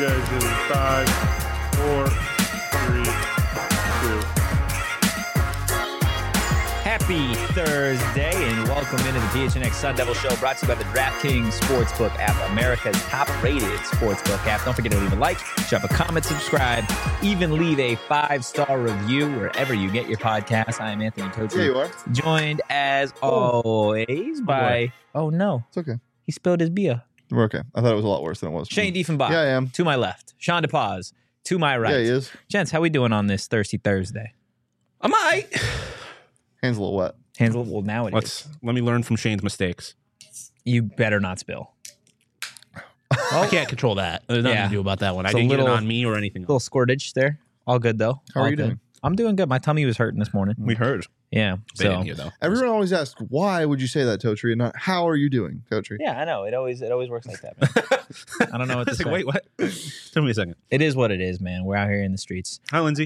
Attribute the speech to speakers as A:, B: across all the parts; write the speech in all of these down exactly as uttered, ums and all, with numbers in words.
A: guys in five, four, three, two.
B: Happy Thursday and welcome into the P H N X Sun Devil Show, brought to you by the DraftKings Sportsbook app, America's top-rated sportsbook app. Don't forget to leave a like, drop a comment, subscribe, even leave a five-star review wherever you get your podcasts. I am Anthony Totri.
C: Yeah, you are.
B: Joined, as always, by... Oh, no.
C: It's okay.
B: He spilled his beer.
C: We're okay. I thought it was a lot worse than it was.
B: Shane Diefenbach.
C: Yeah, I am.
B: To my left. Sean DePaz. To my right.
C: Yeah, he is.
B: Gents, how we doing on this Thirsty Thursday?
D: I'm all right.
C: Hands a little wet.
B: Hands, well, now it
D: Let's
B: is.
D: let me learn from Shane's mistakes.
B: You better not spill.
D: I can't control that. There's nothing
B: Yeah.
D: to do about that one.
B: It's
D: I
B: a
D: didn't
B: little-
D: get it on me or anything.
B: Little squirtage there. All good though.
C: How
B: All
C: are you
B: good.
C: doing?
B: I'm doing good. My tummy was hurting this morning.
D: We heard.
B: Yeah.
D: They
B: So
D: didn't hear though.
C: Everyone always asks, why would you say that, Totri, and not how are you doing, Totri?
B: yeah, I know. It always it always works like that, man. I don't know what to
D: It's like,
B: say.
D: wait, what? Tell me a second.
B: It is what it is, man. We're out here in the streets.
D: Hi, Lindsay.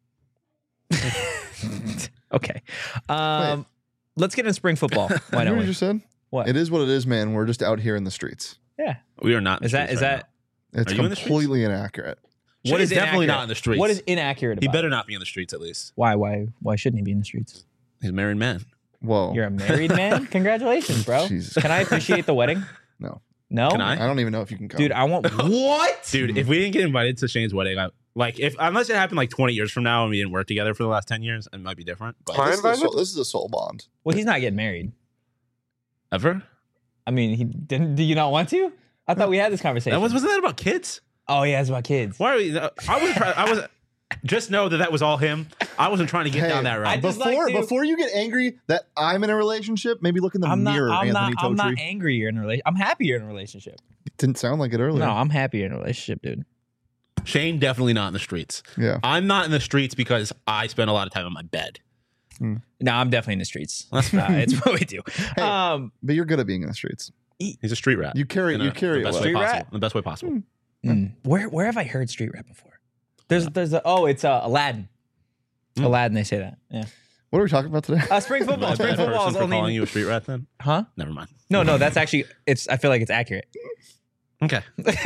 B: Okay. Um, let's get into spring football. Why
C: You know
B: don't
C: what you
B: we?
C: just said?
B: What?
C: It is what it is, man. We're just out here in the streets.
B: Yeah.
D: We are not. In
B: Is
D: the
B: that
D: streets
B: is
D: right
B: that
C: It's
D: Are you in the streets?
C: completely inaccurate.
D: now.
B: what
D: Shane's
B: is
D: definitely
B: inaccurate?
D: not in the streets.
B: What is inaccurate about
D: He better
B: it?
D: not be in the streets at least.
B: Why? Why? Why shouldn't he be in the streets?
D: He's a married man.
C: Whoa.
B: You're a married man. Congratulations, bro.
C: Jesus.
B: Can I officiate the wedding?
C: No.
B: No.
D: Can I?
C: I don't even know if you can come.
B: Dude, I want what?
D: Dude, if we didn't get invited to Shane's wedding, I, like if unless it happened like twenty years from now and we didn't work together for the last ten years, it might be different. But
A: Fine.
C: this, is a soul, this is a soul bond.
B: Well, he's not getting married.
D: ever?
B: I mean, he didn't. Do you not want to? I thought we had this conversation.
D: That was wasn't that about kids?
B: Oh yeah, it's about kids.
D: Why are we? I was. I was. Just know that that was all him. I wasn't trying to get
C: Hey,
D: down that
B: I
D: route.
B: just
C: Before
B: like to-
C: before you get angry that I'm in a relationship, maybe look in the
B: I'm not.
C: mirror,
B: I'm
C: Anthony
B: not. I'm
C: Totri.
B: not angry you're in a relationship. I'm happy you're in a relationship.
C: Didn't sound like it earlier.
B: No, I'm happy you're in a relationship, dude.
D: Shane definitely not in the streets.
C: Yeah.
D: I'm not in the streets because I spend a lot of time in my bed.
B: No, I'm definitely in the streets. Uh, it's what we do.
C: Hey.
B: Um,
C: But you're good at being in the streets.
D: He's a street rat.
C: You carry
D: In
C: you
D: a-
C: carry
D: the
C: it
D: best
C: well.
D: way
B: Street
D: possible.
B: rat?
D: In the best way possible.
B: mm, where where have I heard street rap before? There's there's a, oh it's uh, Aladdin.
D: Mm.
B: Aladdin, they say that. Yeah.
C: What are we talking about today?
B: Uh, spring
D: Am I
B: football.
D: a
B: Spring
D: bad
B: football
D: person
B: is
D: for
B: only.
D: calling you a street rat then?
B: Huh?
D: Never mind.
B: No, no, that's actually it's. I feel like it's accurate.
D: Okay.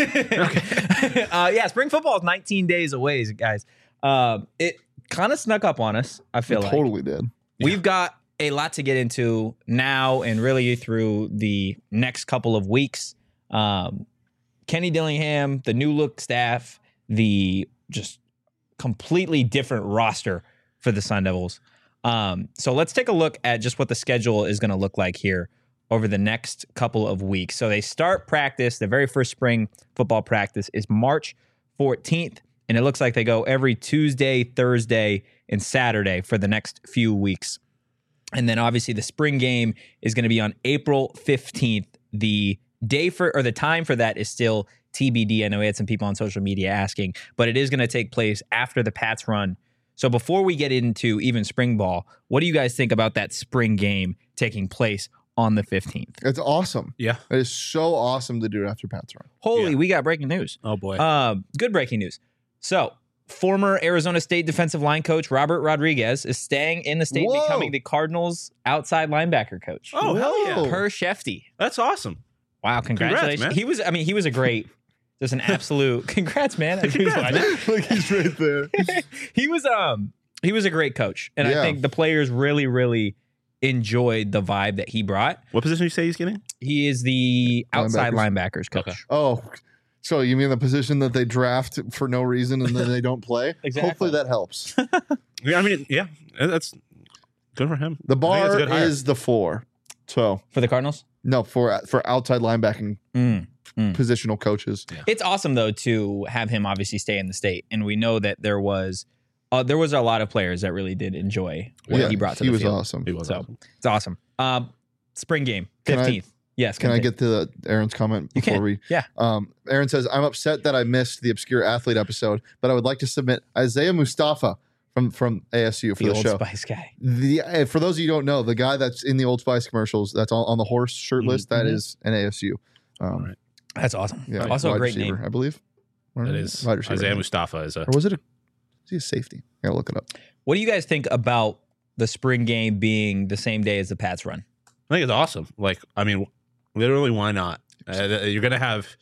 B: okay. uh, yeah, spring football is nineteen days away, guys. Um, it kind of snuck up on us. I feel like
C: Totally did.
B: we've got a lot to get into now, and really through the next couple of weeks. Um, Kenny Dillingham, the new look staff, the just completely different roster for the Sun Devils. Um, so let's take a look at just what the schedule is going to look like here over the next couple of weeks. So they start practice. The very first spring football practice is March fourteenth, and it looks like they go every Tuesday, Thursday, and Saturday for the next few weeks. And then obviously the spring game is going to be on April fifteenth. The day for or the time for that is still T B D. I know we had some people on social media asking, but it is going to take place after the Pats run. So before we get into even spring ball, what do you guys think about that spring game taking place on the fifteenth?
C: It's awesome.
D: Yeah.
C: It is so awesome to do it after Pat's run.
B: Holy,
D: Yeah.
B: we got breaking news.
D: Oh boy.
B: Uh, good breaking news. So, former Arizona State defensive line coach Robert Rodriguez is staying in the state,
C: Whoa.
B: becoming the Cardinals' outside linebacker coach.
D: oh hell yeah.
C: Whoa.
B: Per Shefty.
D: That's awesome.
B: Wow, congratulations.
D: man.
B: He was, I mean, he was a great, just an absolute, congrats, man. He was-
D: Congrats, man.
C: Like he's right there.
B: he was, um, he was a great coach. And I
C: Yeah.
B: think the players really, really enjoyed the vibe that he brought.
D: What position you say he's getting?
B: He is the outside linebackers,
C: Linebackers.
B: coach.
D: Okay.
C: Oh, so you mean the position that they draft for no reason and then they don't play?
B: Exactly.
C: Hopefully that helps.
D: Yeah, I mean, yeah, that's good for him.
C: The
D: I think that's a
C: bar
D: good hire.
C: is the four. So
B: For the Cardinals?
C: no, for for outside linebacking
B: Mm.
C: positional coaches.
B: It's awesome though to have him obviously stay in the state, and we know that there was uh, there was a lot of players that really did enjoy what
C: Yeah,
B: he brought to
C: he
B: the
C: was
B: field.
C: awesome.
D: He was
B: So
D: awesome.
B: it's awesome. Um, spring game,
C: Can I-
B: fifteenth. Yes,
C: Can I
B: continue.
C: get to the, Aaron's comment
B: You
C: before
B: can.
C: we?
B: Yeah.
C: Um, Aaron says, "I'm upset that I missed the obscure athlete episode, but I would like to submit Isaiah Mustafa from from A S U for
B: the
C: the,
B: Old
C: show.
B: Spice guy?
C: The uh, for those of you who don't know, the guy that's in the Old Spice commercials, that's on, on the horse shirtless, that
B: Mhm.
C: is an A S U. Um,
D: All right.
B: That's awesome.
C: Yeah,
B: Also a
C: wide
B: great
C: receiver,
B: name.
C: I believe.
D: That is
C: wide receiver.
D: Isaiah Mustafa is a
C: Or was it a? Is he a safety? I gotta look it up.
B: What do you guys think about the spring game being the same day as the Pats run?
D: I think it's awesome. Like, I mean, literally, why not? Uh, you're gonna have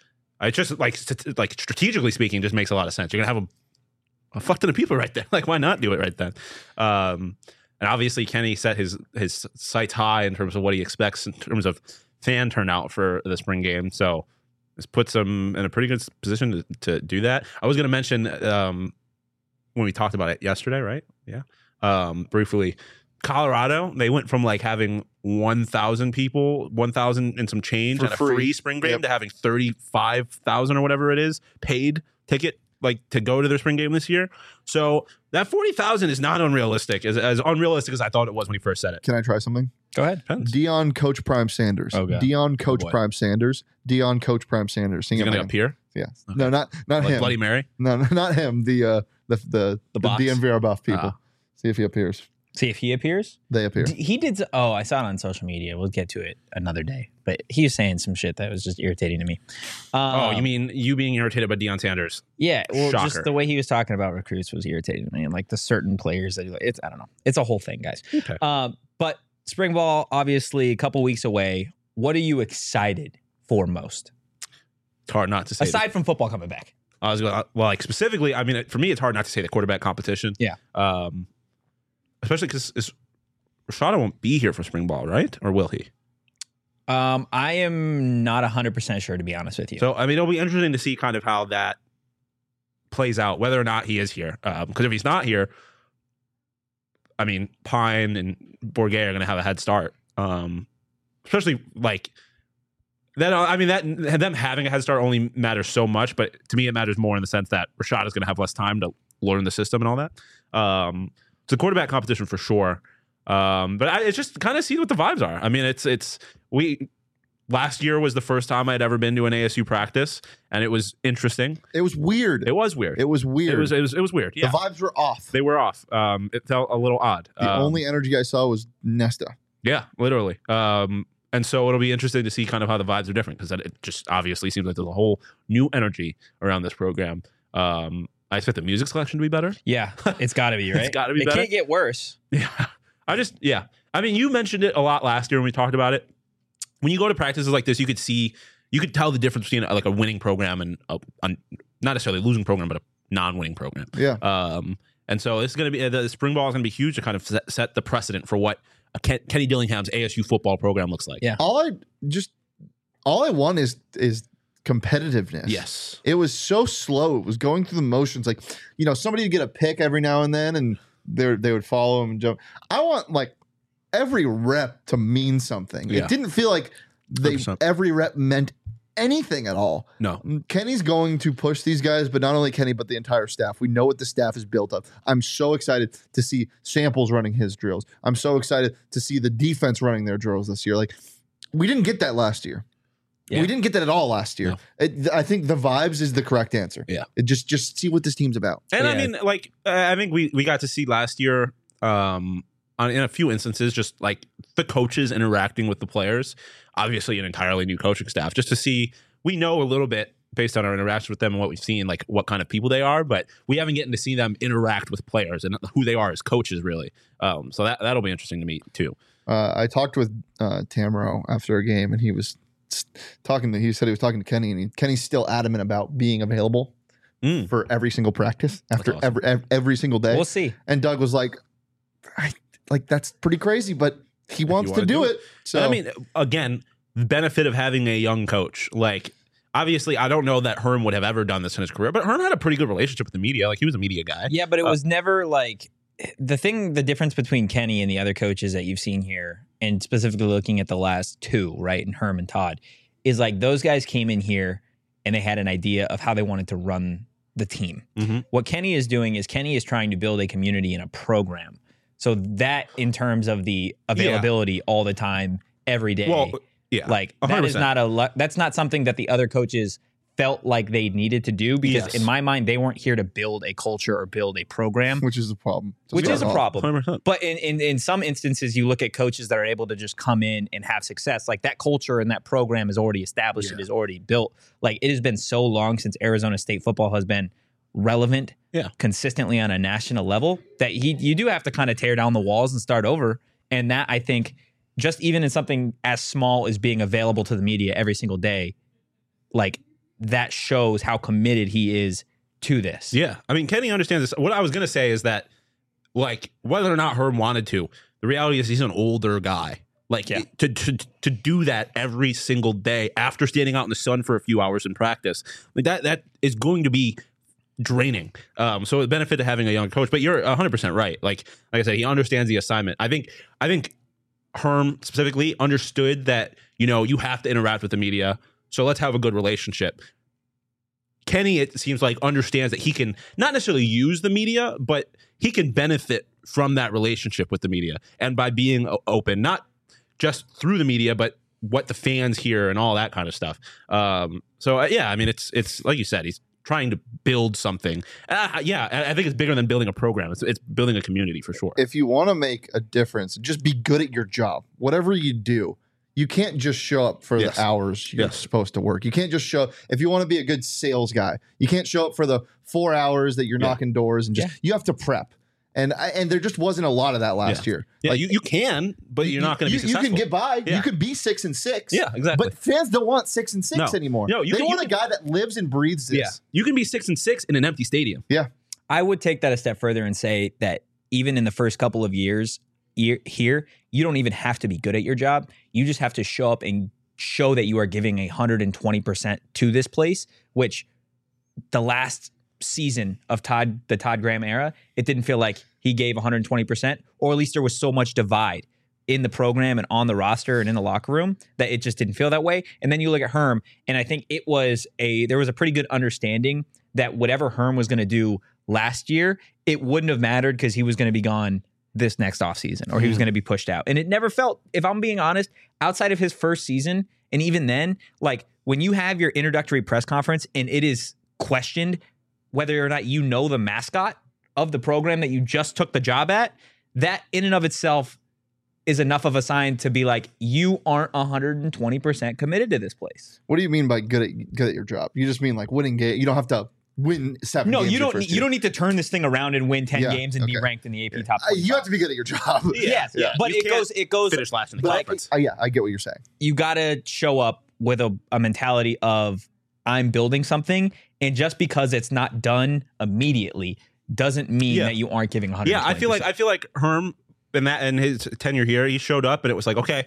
D: Uh, It's just like st- like strategically speaking, just makes a lot of sense. You're gonna have a, a fuck ton of people right there. Like, why not do it right then? Um, and obviously, Kenny set his his sights high in terms of what he expects in terms of fan turnout for the spring game. So this puts him in a pretty good position to, to do that. I was gonna mention um, when we talked about it yesterday, right? Yeah, um, briefly. Colorado, they went from like having one thousand people, one thousand and some change
C: For
D: at a
C: free.
D: free spring game
C: Yep.
D: to having thirty-five thousand or whatever it is paid ticket like to go to their spring game this year. So that forty thousand is not unrealistic, as, as unrealistic as I thought it was when he first said it.
C: Can I try something?
B: Go ahead.
D: Depends.
C: Dion Coach Prime Sanders.
B: Oh, God.
C: Dion Coach
D: boy.
C: Prime Sanders. Dion Coach Prime Sanders. Sing
D: Is he
C: it,
D: going to
C: man.
D: appear?
C: Yeah.
D: Okay.
C: No, not not
D: Like
C: him.
D: Bloody Mary?
C: No, no, not him. The uh the the the,
D: box?
C: D M V R buff people.
D: Ah.
C: See if he appears.
B: See if he appears.
C: They appear.
B: D- He did. s- Oh, I saw it on social media. We'll get to it another day. But he was saying some shit that was just irritating to me. Um,
D: Oh, you mean you being irritated by Deion Sanders?
B: Yeah. Well,
D: Shocker.
B: just the way he was talking about recruits was irritating to me, and like the certain players that he, it's. I don't know. It's a whole thing, guys.
D: Okay.
B: Um, but spring ball, obviously, a couple weeks away. What are you excited for most,
D: It's hard not to say.
B: aside from football coming back?
D: I was going well, like specifically. I mean, for me, it's hard not to say the quarterback competition.
B: Yeah.
D: Um, especially because Rashada won't be here for spring ball, right? Or will he?
B: Um, I am not one hundred percent sure, to be honest with you.
D: So I mean, it'll be interesting to see kind of how that plays out, whether or not he is here. Because if he's not here, I mean, Pine and Bourget are going to have a head start. Um, especially like that. I mean, that them having a head start only matters so much, but to me, it matters more in the sense that Rashad is going to have less time to learn the system and all that. Um, it's a quarterback competition for sure. Um, but I, it's just kind of see what the vibes are. I mean, it's it's we. Last year was the first time I'd ever been to an A S U practice, and it was interesting.
C: It was weird.
D: It was weird.
C: It was weird.
D: It was it was it was weird. Yeah,
C: The vibes were off.
D: they were off. Um, it felt a little odd.
C: The
D: Um,
C: only energy I saw was Nesta.
D: yeah, literally. Um, and so it'll be interesting to see kind of how the vibes are different because it just obviously seems like there's a whole new energy around this program. Um, I expect the music selection to be better.
B: yeah, it's got to be right.
D: It's gotta be
B: It
D: better.
B: can't get worse.
D: Yeah, I just yeah. I mean, you mentioned it a lot last year when we talked about it. When you go to practices like this, you could see, you could tell the difference between uh, like a winning program and a, a not necessarily a losing program, but a non-winning program.
C: Yeah.
D: Um, and so it's going to be the spring ball is going to be huge to kind of set, set the precedent for what a Ken, Kenny Dillingham's A S U football program looks like.
B: Yeah.
C: All I just all I want is is competitiveness.
D: Yes.
C: It was so slow. It was going through the motions. Like, you know, somebody would get a pick every now and then and they they would follow him and jump. I want like every rep to mean something.
D: Yeah.
C: It didn't feel like they
D: one hundred percent.
C: every rep meant anything at all.
D: No.
C: Kenny's going to push these guys, but not only Kenny, but the entire staff. We know what the staff is built of. I'm so excited to see Samples running his drills. I'm so excited to see the defense running their drills this year. Like, we didn't get that last year.
B: Yeah.
C: We didn't get that at all last year.
D: No.
C: It, I think the vibes is the correct answer.
D: Yeah.
C: It just just see what this team's about.
D: And I
B: Yeah.
D: mean, like, uh, I think we, we got to see last year, um, on, in a few instances, just like the coaches interacting with the players. Obviously, an entirely new coaching staff, just to see. We know a little bit based on our interaction with them and what we've seen, like what kind of people they are, but we haven't gotten to see them interact with players and who they are as coaches, really. Um, so that that'll be interesting to me too.
C: Uh, I talked with uh, Tamaro after a game, and he was s- talking to. He said he was talking to Kenny, and he, Kenny's still adamant about being available
D: Mm.
C: for every single practice after
D: awesome.
C: every ev- every single day.
B: We'll see.
C: And Doug was like, I, like that's pretty crazy, but he wants to
D: wanna
C: do,
D: do
C: it. So
D: And I mean, again, the benefit of having a young coach. Like, obviously, I don't know that Herm would have ever done this in his career, but Herm had a pretty good relationship with the media. Like, he was a media guy.
B: Yeah, but it
D: Uh,
B: was never like the thing. The difference between Kenny and the other coaches that you've seen here, and specifically looking at the last two, right, and Herm and Todd, is like those guys came in here and they had an idea of how they wanted to run the team.
D: Mhm.
B: What Kenny is doing is Kenny is trying to build a community and a program. So that, in terms of the availability all the time, every day,
D: Well, yeah.
B: like
D: one
B: that
D: hundred
B: is
D: percent.
B: not a lu- that's not something that the other coaches felt like they needed to do, because
D: Yes.
B: in my mind they weren't here to build a culture or build a program,
C: which is a problem.
B: which
C: It's
B: is a
C: not.
B: problem.
D: one hundred percent.
B: But in, in in some instances, you look at coaches that are able to just come in and have success. Like that culture and that program is already established.
D: Yeah.
B: It is already built. Like it has been so long since Arizona State football has been relevant,
D: Yeah.
B: consistently on a national level, that he you do have to kind of tear down the walls and start over. And that, I think, just even in something as small as being available to the media every single day, like that shows how committed he is to this.
D: Yeah. I mean, Kenny understands this. What I was going to say is that, like, whether or not Herm wanted to, the reality is he's an older guy. Like,
B: Yeah.
D: to, to to do that every single day after standing out in the sun for a few hours in practice, like that that is going to be draining. Um, so it benefit having a young coach. But you're one hundred percent right. Like, like I said, he understands the assignment. I think I think Herm specifically understood that, you know, you have to interact with the media. So let's have a good relationship. Kenny, it seems like, understands that he can not necessarily use the media, but he can benefit from that relationship with the media. And by being o- open, not just through the media, but what the fans hear and all that kind of stuff. Um, so, uh, yeah, I mean, it's, it's like you said, he's trying to build something. Uh, yeah, I I think it's bigger than building a program. It's, it's building a community for sure.
C: If you want to make a difference, just be good at your job. Whatever you do, you can't just show up for
D: Yes.
C: the hours you're
D: Yes.
C: supposed to work. You can't just show if you want to be a good sales guy. You can't show up for the four hours that you're
D: Yeah.
C: knocking doors and just
B: Yeah.
C: you have to prep. And I, and there just wasn't a lot of that last year.
D: Yeah,
C: Like,
D: you, you can, but you're not going to
C: you,
D: be
C: you
D: successful.
C: can get by.
D: Yeah.
C: You could be six and six.
D: Yeah, exactly.
C: But fans don't want six and six
D: No.
C: anymore.
D: No, you
C: they
D: can-
C: want
D: you
C: a guy that lives and breathes this.
D: yeah, you can be six and six in an empty stadium.
C: Yeah.
B: I would take that a step further and say that even in the first couple of years year, here, you don't even have to be good at your job. You just have to show up and show that you are giving one hundred twenty percent to this place, which the last season of Todd, the Todd Graham era, it didn't feel like he gave one hundred twenty percent, or at least there was so much divide in the program and on the roster and in the locker room that it just didn't feel that way. And then you look at Herm, and I think it was a there was a pretty good understanding that whatever Herm was going to do last year, it wouldn't have mattered because he was going to be gone this next offseason or he was going to be pushed out. And it never felt, if I'm being honest, outside of his first season, and even then, like when you have your introductory press conference and it is questioned whether or not you know the mascot of the program that you just took the job at, that in and of itself is enough of a sign to be like, you aren't one hundred twenty percent committed to this place.
C: What do you mean by good at good at your job? You just mean like winning game. You don't have to win seven.
B: No,
C: games
B: you
C: your
B: don't.
C: first
B: You
C: year.
B: don't need to turn this thing around and win ten
C: Yeah,
B: games and be
C: okay.
B: ranked in the A P top.
C: Uh, you have to be good at your job.
B: Yes,
D: Yeah.
B: but
D: You
B: it
D: can't
B: goes. It goes.
D: Finish last in the
B: like-
D: conference.
C: Uh, yeah, I get what you're saying.
B: You got to show up with a, a mentality of I'm building something, and just because it's not done immediately doesn't mean
D: Yeah.
B: that you aren't giving one hundred.
D: Yeah, I feel like I feel like Herm in that in his tenure here, he showed up and it was like, okay,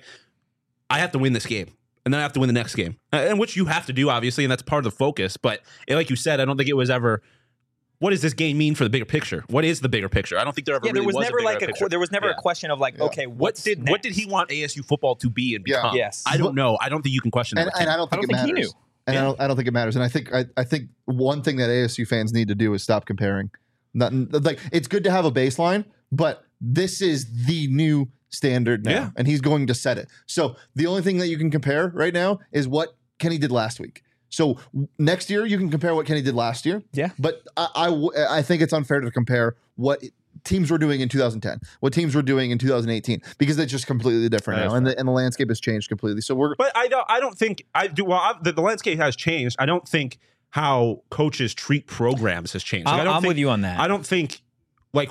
D: I have to win this game, and then I have to win the next game, uh, and which you have to do, obviously, and that's part of the focus. But eh, like you said, I don't think it was ever. What does this game mean for the bigger picture? What is the bigger picture? I don't think there ever
B: yeah, there
D: really
B: was, never
D: a bigger
B: like a
D: picture.
B: qu- there was never
D: Yeah.
B: a question of like,
C: Yeah.
B: okay,
D: What
B: what's
D: did what did he want A S U football to be and
C: Yeah.
D: become?
B: Yes.
D: I don't know. I don't think you can question that.
C: And,
D: with
C: and
D: him.
C: I don't think
B: I don't
C: it
B: think he
C: matters.
B: knew.
C: And
D: Yeah.
C: I don't. I don't think it matters. And I think. I, I think one thing that A S U fans need to do is stop comparing. Not, like it's good to have a baseline, but this is the new standard now,
D: Yeah.
C: and he's going to set it. So the only thing that you can compare right now is what Kenny did last week. So w- next year you can compare what Kenny did last year.
B: Yeah.
C: But I, I w- I think it's unfair to compare what teams were doing in two thousand ten, what teams were doing in two thousand eighteen, because it's just completely different
D: That is
C: now, and the, and the landscape has changed completely. So we're
D: But I don't. I don't think I do. Well, I, the, the landscape has changed. I don't think how coaches treat programs has changed. Like, I
B: I'm,
D: don't
B: I'm
D: think,
B: with you on that.
D: I don't think like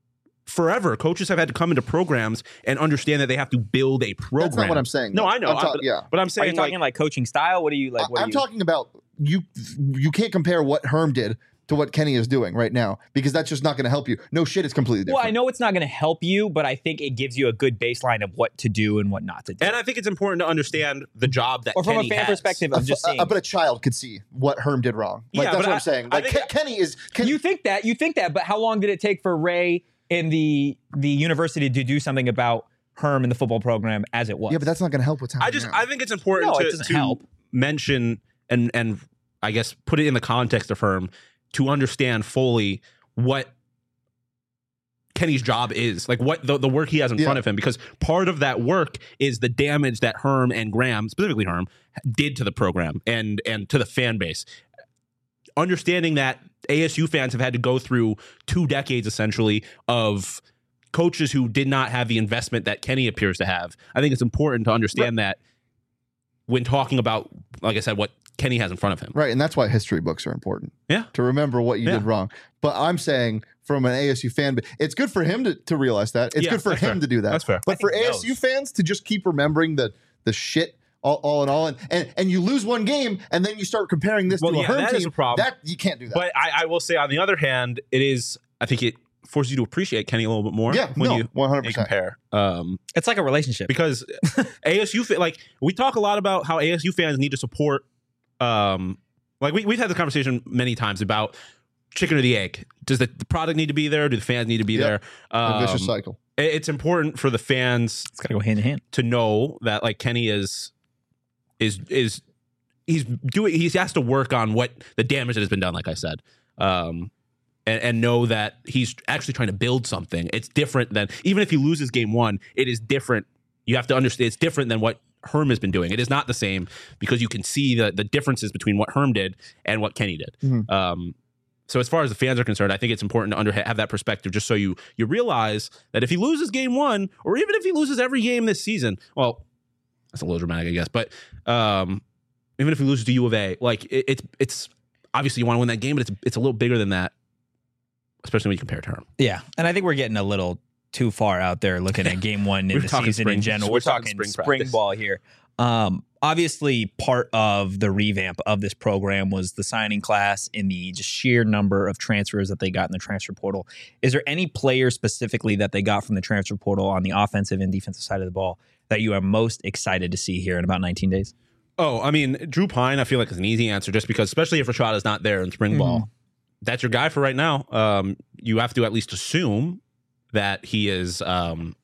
D: forever coaches have had to come into programs and understand that they have to build a program.
C: that's not what I'm saying.
D: No,
C: though.
D: I know.
C: I'm
D: I-
C: ta-
D: but,
C: yeah.
D: but I'm
B: Are
D: saying
B: you talking
D: like,
B: like, coaching style? What are you like? What
C: I-
B: are
C: I'm
B: you,
C: talking about you. You can't compare what Herm did to what Kenny is doing right now, because that's just not going to help you. No shit, it's completely different.
B: Well, I know it's not going to help you, but I think it gives you a good baseline of what to do and what not to do.
D: and I think it's important to understand the job that
B: or from
D: Kenny
B: a fan
D: has.
B: perspective
C: A
B: of just
C: f-
B: seeing.
C: uh, but a child could see what Herm did wrong. Like
D: Yeah,
C: that's
D: but
C: what
D: I-
C: I'm saying.
D: I
C: Like
D: think-
C: Ken- Kenny is. Ken-
B: you think that, you think that, but how long did it take for Ray and the the university to do something about Herm and the football program as it was?
C: yeah, but that's not going to help what's happening.
D: I just
C: now.
D: I think it's important
B: No, it
D: to,
B: doesn't
D: to
B: help.
D: mention and and I guess put it in the context of Herm to understand fully what Kenny's job is, like what the, the work he has in
C: Yeah.
D: front of him, because part of that work is the damage that Herm and Graham, specifically Herm, did to the program and and to the fan base. Understanding that A S U fans have had to go through two decades essentially of coaches who did not have the investment that Kenny appears to have. I think it's important to understand that when talking about, like I said, what Kenny has in front of him.
C: right, and that's why history books are important.
D: Yeah.
C: to remember what you
D: Yeah.
C: did wrong. But I'm saying from an A S U fan, but it's good for him to, to realize that. It's
D: Yeah,
C: good for
D: that's
C: him
D: fair.
C: to do that.
D: That's fair.
C: But for
B: I think he
C: A S U
B: knows.
C: fans to just keep remembering the the shit all, all in all, and, and and you lose one game, and then you start comparing this
D: Well,
C: to a
D: yeah,
C: Herm
D: that
C: team.
D: is a problem.
C: That you can't do that.
D: But I, I will say, on the other hand, it is. I think it forces you to appreciate Kenny a little bit more.
C: Yeah,
D: when
C: no,
D: you
C: one hundred
D: you
C: percent.
D: compare. Um,
B: It's like a relationship.
D: because A S U fa- like we talk a lot about how A S U fans need to support. Um, like we we've had the conversation many times about chicken or the egg. Does the, the product need to be there? Do the fans need to be
C: Yep.
D: there?
C: A
D: Um,
C: vicious cycle.
D: it- it's important for the fans
B: It's got to go hand in hand.
D: to know that like Kenny is is is he's doing he has to work on what the damage that has been done, like I said. Um and, and know that he's actually trying to build something. It's different than even if he loses game one, it is different. You have to understand it's different than what Herm has been doing. It is not the same because you can see the the differences between what Herm did and what Kenny did.
C: Mhm.
D: Um so as far as the fans are concerned, I think it's important to under, have that perspective just so you you realize that if he loses game one, or even if he loses every game this season, well, that's a little dramatic, I guess, but um, even if he loses to U of A, like it, it's it's obviously you want to win that game, but it's it's a little bigger than that, especially when you compare it to Herm.
B: Yeah, and I think we're getting a little too far out there looking at game one in
D: We're
B: the
D: talking
B: season
D: spring-
B: in general.
D: we're
B: We're,
D: talking
B: talking,
D: spring
B: spring,
D: practice.
B: ball here. Um, obviously, part of the revamp of this program was the signing class and the just sheer number of transfers that they got in the transfer portal. Is there any player specifically that they got from the transfer portal on the offensive and defensive side of the ball that you are most excited to see here in about nineteen days?
D: Oh, I mean, Drew Pine, I feel like is an easy answer just because, especially if Rashada's not there in spring ball, that's your guy for right now. Um, you have to at least assume that he is um,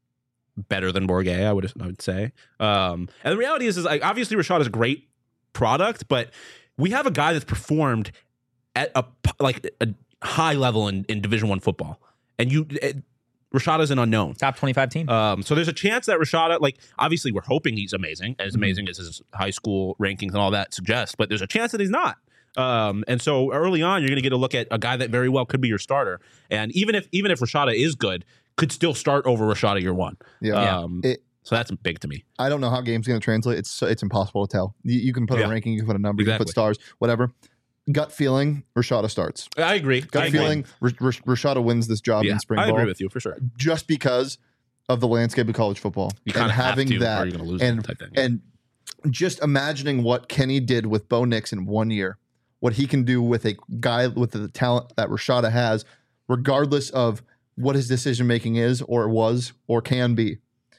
D: better than Bourguet, I would I would say. Um, and the reality is, is like obviously Rashad is a great product, but we have a guy that's performed at a p- like a high level in, in Division One football, and you it, Rashad is an unknown.
B: Top twenty-five team.
D: Um, so there's a chance that Rashada, like, obviously we're hoping he's amazing, as amazing as his high school rankings and all that suggest, but there's a chance that he's not. Um, and so early on, you're going to get a look at a guy that very well could be your starter. And even if even if Rashada is good, could still start over Rashada year one.
C: Yeah.
D: Um,
C: It-
D: so that's big to me.
C: I don't know how games going to translate. It's so- it's impossible to tell. You, you can put
D: Yeah.
C: a ranking, you can put a number, you can
D: Exactly.
C: put stars, whatever. Gut feeling, Rashada starts.
D: I agree.
C: Gut
D: I agree.
C: feeling, R- R- Rashada wins this job
D: Yeah,
C: in spring
D: I
C: ball
D: agree with you for sure.
C: just because of the landscape of college football
D: You
C: and
D: kind of
C: having
D: have to,
C: that
D: or you're going to lose
C: and
D: it type thing.
C: and just imagining what Kenny did with Bo Nix in one year, what he can do with a guy with the talent that Rashada has, regardless of what his decision making is or was or can be.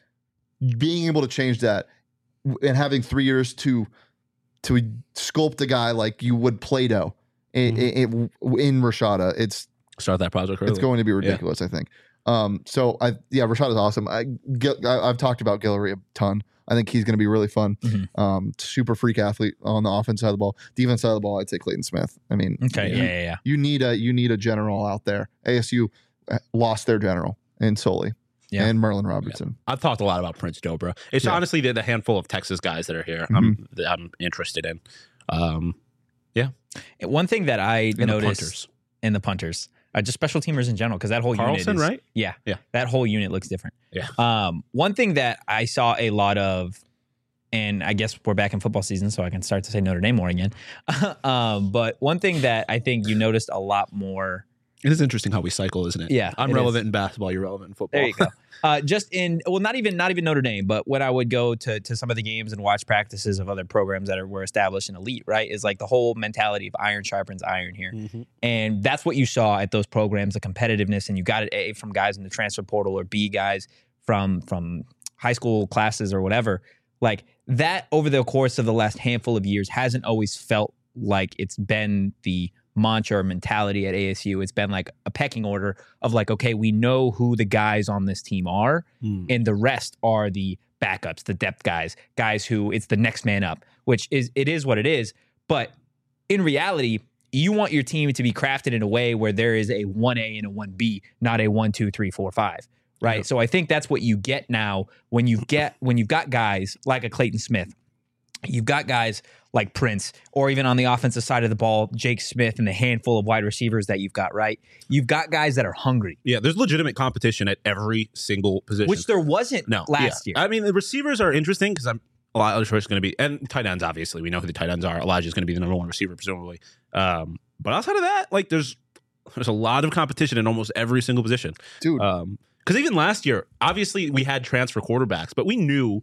C: Being able to change that and having three years to to sculpt a guy like you would Play-Doh in, in, in Rashada, it's
D: Start that project early.
C: it's going to be ridiculous, I think. Um, so I yeah, Rashada's awesome. I, Gil, I I've talked about Guillory a ton. I think he's going to be really fun.
B: Mhm.
C: Um, super freak athlete on the offense side of the ball. Defense side of the ball, I'd say Clayton Smith. I mean,
B: Okay,
C: you,
B: yeah, yeah, yeah.
C: you need a you need a general out there. A S U lost their general in Soley
B: Yeah.
C: and Merlin Robertson.
D: I've talked a lot about Prince Dobra. It's
C: Yeah.
D: honestly the, the handful of Texas guys that are here I'm, that I'm interested in. Um,
B: One thing that I
D: and the
B: noticed
D: punters.
B: in the punters, uh, just special teamers in general, because that whole
D: Carlson,
B: unit is,
D: right?
B: Yeah,
D: Yeah.
B: that whole unit looks different.
D: Yeah.
B: Um, one thing that I saw a lot of, and I guess we're back in football season, so I can start to say Notre Dame more again. um, but one thing that I think you noticed a lot more.
D: It is interesting how we cycle, isn't it?
B: Yeah,
D: I'm
B: it
D: relevant
B: is.
D: in basketball. You're relevant in football.
B: There you go. Uh, just in well, not even not even Notre Dame, but when I would go to to some of the games and watch practices of other programs that are, were established in elite, right, is like the whole mentality of iron sharpens iron here,
D: Mhm.
B: and that's what you saw at those programs, the competitiveness, and you got it A from guys in the transfer portal or B guys from from high school classes or whatever. Like that over the course of the last handful of years hasn't always felt like it's been the mantra or mentality at A S U. It's been like a pecking order of like, okay, we know who the guys on this team are,
D: Mm.
B: and the rest are the backups, the depth guys, guys who it's the next man up, which is it is what it is. But in reality, you want your team to be crafted in a way where there is a one A and a one B, not a one, two, three, four, five. Right.
D: Yeah.
B: So I think that's what you get now when you get when you've got guys like a Clayton Smith. You've got guys like Prince, or even on the offensive side of the ball, Jake Smith and the handful of wide receivers that you've got, right? You've got guys that are hungry,
D: Yeah, there's legitimate competition at every single position.
B: which there wasn't
D: no
B: last
D: yeah.
B: year.
D: I mean, the receivers are interesting because I'm a lot of choice going to be, and tight ends. Obviously, we know who the tight ends are. Elijah's going to be the number one receiver, presumably. Um, but outside of that, like there's there's a lot of competition in almost every single position.
C: Dude,
D: Um, because even last year, obviously we had transfer quarterbacks, but we knew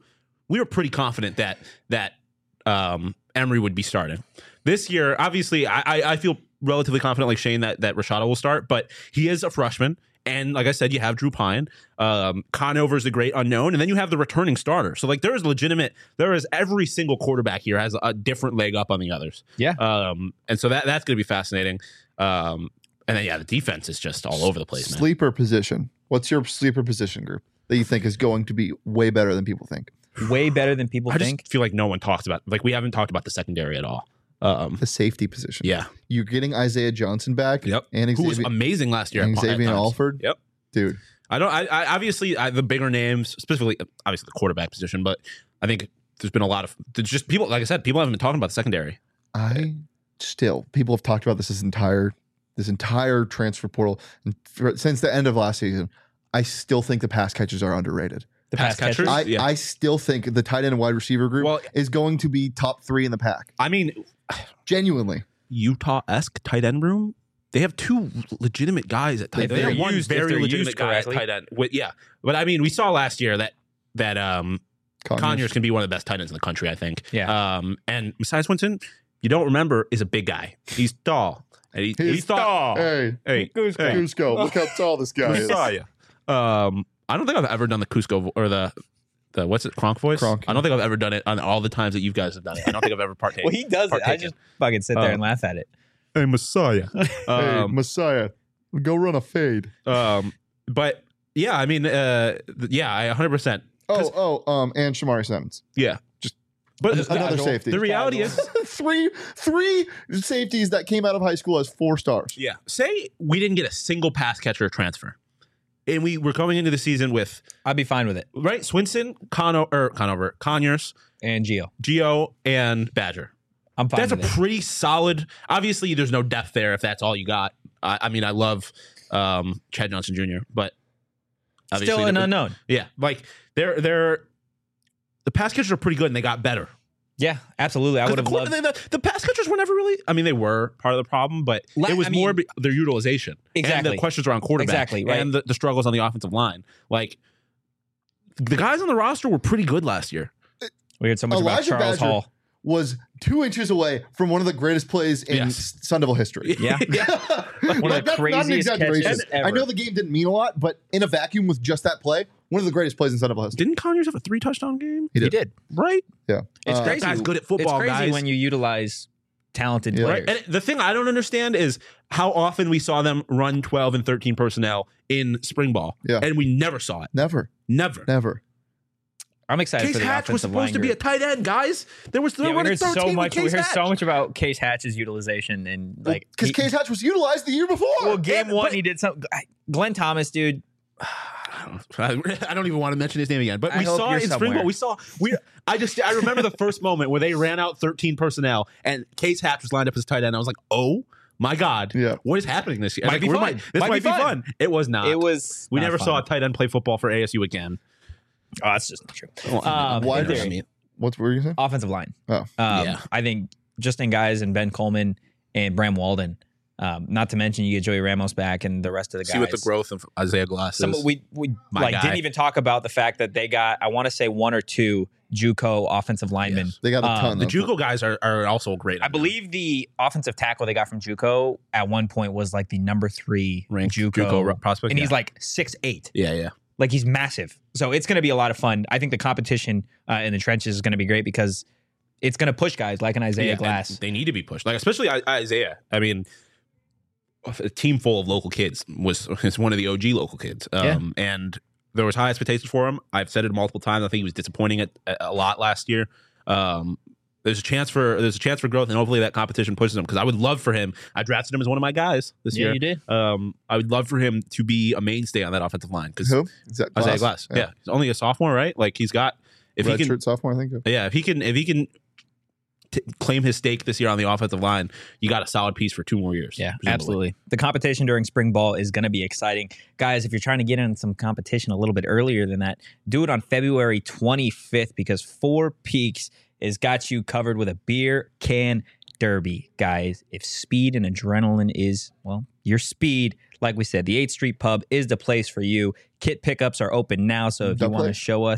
D: we were pretty confident that that um, Emery would be starting. This year, obviously, I, I, I feel relatively confident, like Shane, that that Rashada will start, but he is a freshman. And like I said, you have Drew Pine. Um, Conover is the great unknown. And then you have the returning starter. So, like, there is legitimate, there is every single quarterback here has a different leg up on the others.
B: Yeah.
D: Um, and so that that's going to be fascinating. Um, and then, yeah, the defense is just all over the place, man.
C: Sleeper position. What's your sleeper position group that you think is going to be way better than people think?
B: Way better than people
D: I
B: think.
D: just feel like no one talks about, like, we haven't talked about the secondary at all. Um,
C: The safety position.
D: yeah.
C: You're getting Isaiah Johnson back.
D: Yep.
C: And
D: Who was
C: Xavier,
D: amazing last year.
C: and
D: at- at
C: Xavier
D: times.
C: Alford.
D: Yep.
C: Dude.
D: I don't. I, I obviously I, the bigger names, specifically obviously the quarterback position, but I think there's been a lot of there's just people. Like I said, people haven't been talking about the secondary.
C: I still, people have talked about this this entire this entire transfer portal and for, since the end of last season. I still think the pass catchers are underrated.
B: The
D: Pass
B: pass
D: catchers?
B: catchers.
C: I,
D: Yeah.
C: I still think the tight end and wide receiver group
D: Well-
C: is going to be top three in the pack.
D: I mean,
C: Genuinely.
D: Utah-esque tight end room. They have two legitimate guys at tight end.
B: If
D: They
B: they're
D: have one
B: used- if
D: very
B: they're
D: legitimate
B: used
D: guy at
B: correctly.
D: tight end. With, yeah, but I mean, we saw last year that that um,
C: Conyers.
D: Conyers can be one of the best tight ends in the country. I think.
B: Yeah.
D: Um, and Messiah Swinton, you don't remember, is a big guy. He's tall. And he,
C: He's
D: he thought,
C: Hey,
D: hey,
B: Cusco.
D: hey,
C: Cusco, look how tall this guy is.
D: Messiah. Um, I don't think I've ever done the Cusco vo- or the the what's it Kronk voice.
C: Kronk.
D: I don't think I've ever done it on all the times that you guys have done it. I don't think I've ever partaken.
B: Well, he does it. I
D: partaken.
B: just fucking sit there
D: Um,
B: and laugh at it.
D: Hey, Messiah.
C: Hey,
D: Um,
C: Messiah, go run a fade.
D: um, but yeah, I mean, uh, th- yeah, I one hundred percent.
C: Oh, oh, um, and Shamari Simmons.
D: Yeah,
C: Just
D: but
C: another
D: the,
C: safety.
D: The reality is,
C: three, three safeties that came out of high school as four stars.
D: yeah, say we didn't get a single pass catcher transfer, and we were going into the season with
B: I'd be fine with it.
D: right Swinson, Cono or Conover, Conyers,
B: And Gio,
D: Gio, and Badger.
B: I'm fine
D: That's a
B: with it.
D: pretty solid. Obviously, there's no depth there if that's all you got. I, I mean, I love um, Chad Johnson Junior, but obviously
B: Still an
D: the-
B: unknown.
D: Yeah, like they're they're the pass catchers are pretty good and they got better.
B: Yeah, absolutely. I
D: 'Cause
B: would have
D: the,
B: loved.
D: the, the, the pass catchers were never really. I mean, they were part of the problem, but
B: La-
D: it was
B: I mean-
D: more be, their utilization. And
B: Exactly.
D: the questions around quarterback.
B: Exactly, right.
D: And the, the struggles on the offensive line. Like the guys on the roster were pretty good last year.
B: We heard so much about
C: Elijah
B: Charles
C: Badger
B: Hall.
C: was two inches away from one of the greatest plays in
D: Yes.
C: Sun Devil history.
B: Yeah.
C: One
B: One of the craziest catches ever.
C: I know the game didn't mean a lot, but in a vacuum with just that play, one of the greatest plays in Sun Devil history.
D: Didn't Conyers have a three touchdown game?
C: He
B: He
C: did.
B: did.
D: Right?
C: Yeah.
B: It's
C: Uh,
B: crazy.
D: That guy's good at football,
B: It's crazy
D: guys.
B: when you utilize talented
C: Yeah.
B: players.
D: Right. And the thing I don't understand is how often we saw them run twelve and thirteen personnel in spring ball.
C: Yeah.
D: And we never saw it.
C: Never,
D: Never.
C: never.
B: I'm excited
D: Case
B: for the
D: Hatch was
B: offensive
D: supposed
B: line
D: to be a
B: group.
D: tight end, guys. There was they
B: Yeah,
D: were
B: we
D: running
B: heard
D: thirteen
B: so
D: with
B: much. We
D: Case
B: heard
D: Hatch.
B: so much about Case Hatch's utilization and like
C: Because
B: he-
C: Case Hatch was utilized the year before.
B: Well, game
D: Yeah,
B: one
D: but-
B: he did something. Glenn Thomas, dude.
D: I don't even want to mention his name again, but
B: I
D: we
B: hope
D: saw
B: you're
D: it in spring
B: somewhere.
D: ball. We saw we. I just I remember the first moment where they ran out thirteen personnel and Case Hatch was lined up as tight end. I was like, oh my god,
C: Yeah.
D: what is happening this year?
B: Might
D: Like,
B: be
D: we're
B: fun.
D: might- this
B: Might
D: might,
B: be
D: be
B: fun.
D: fun. It was not.
B: It was.
D: We
B: not
D: never
B: fun.
D: saw a tight end play football for A S U again.
B: Oh, that's just not true.
D: Well,
B: Um,
C: Why
B: in
C: did-
B: theory,
C: What were you saying?
B: offensive line.
C: Oh.
B: Um,
D: Yeah.
B: I think Justin Guys and Ben Coleman and Bram Walden. Um, not to mention you get Joey Ramos back and the rest of the guys.
D: See what the growth of Isaiah Glass
B: Some
D: is.
B: we we
D: My
B: like
D: guy.
B: didn't even talk about the fact that they got I want to say one or two JUCO offensive linemen.
D: Yes.
C: They got a
B: Um,
C: ton.
D: the
C: though.
D: JUCO guys are, are also great.
B: I believe the offensive tackle they got from JUCO at one point was like the number three
D: ranked
B: JUCO,
D: JUCO prospect,
B: and
D: yeah.
B: he's like six eight.
D: yeah, yeah.
B: Like he's massive. So it's going to be a lot of fun. I think the competition uh, in the trenches is going to be great because it's going to push guys like an Isaiah
D: Yeah, and
B: Glass.
D: They need to be pushed, like especially I- Isaiah. I mean, a team full of local kids was is one of the O G local kids, um, and there was high expectations for him. I've said it multiple times. I think he was disappointing at, a lot last year. Um, there's a chance for there's a chance for growth, and hopefully that competition pushes him. Because I would love for him. I drafted him as one of my guys this
B: Yeah,
D: year.
B: you did.
D: Um, I would love for him to be a mainstay on that offensive line. Because
C: Who? Is that
D: Isaiah Glass, yeah. he's only a sophomore, right? Like he's got if
C: Red
D: he can,
C: shirt sophomore, I think.
D: yeah, if he can, if he can t- claim his stake this year on the offensive line, you got a solid piece for two more years.
B: Yeah,
D: presumably.
B: absolutely. The competition during spring ball is going to be exciting. Guys, if you're trying to get in some competition a little bit earlier than that, do it on February twenty-fifth because Four Peaks has got you covered with a beer can derby. Guys, if speed and adrenaline is, well, your speed, like we said, the eighth Street Pub is the place for you. Kit pickups are open now, so if you
C: Double
B: want to
C: A.
B: show us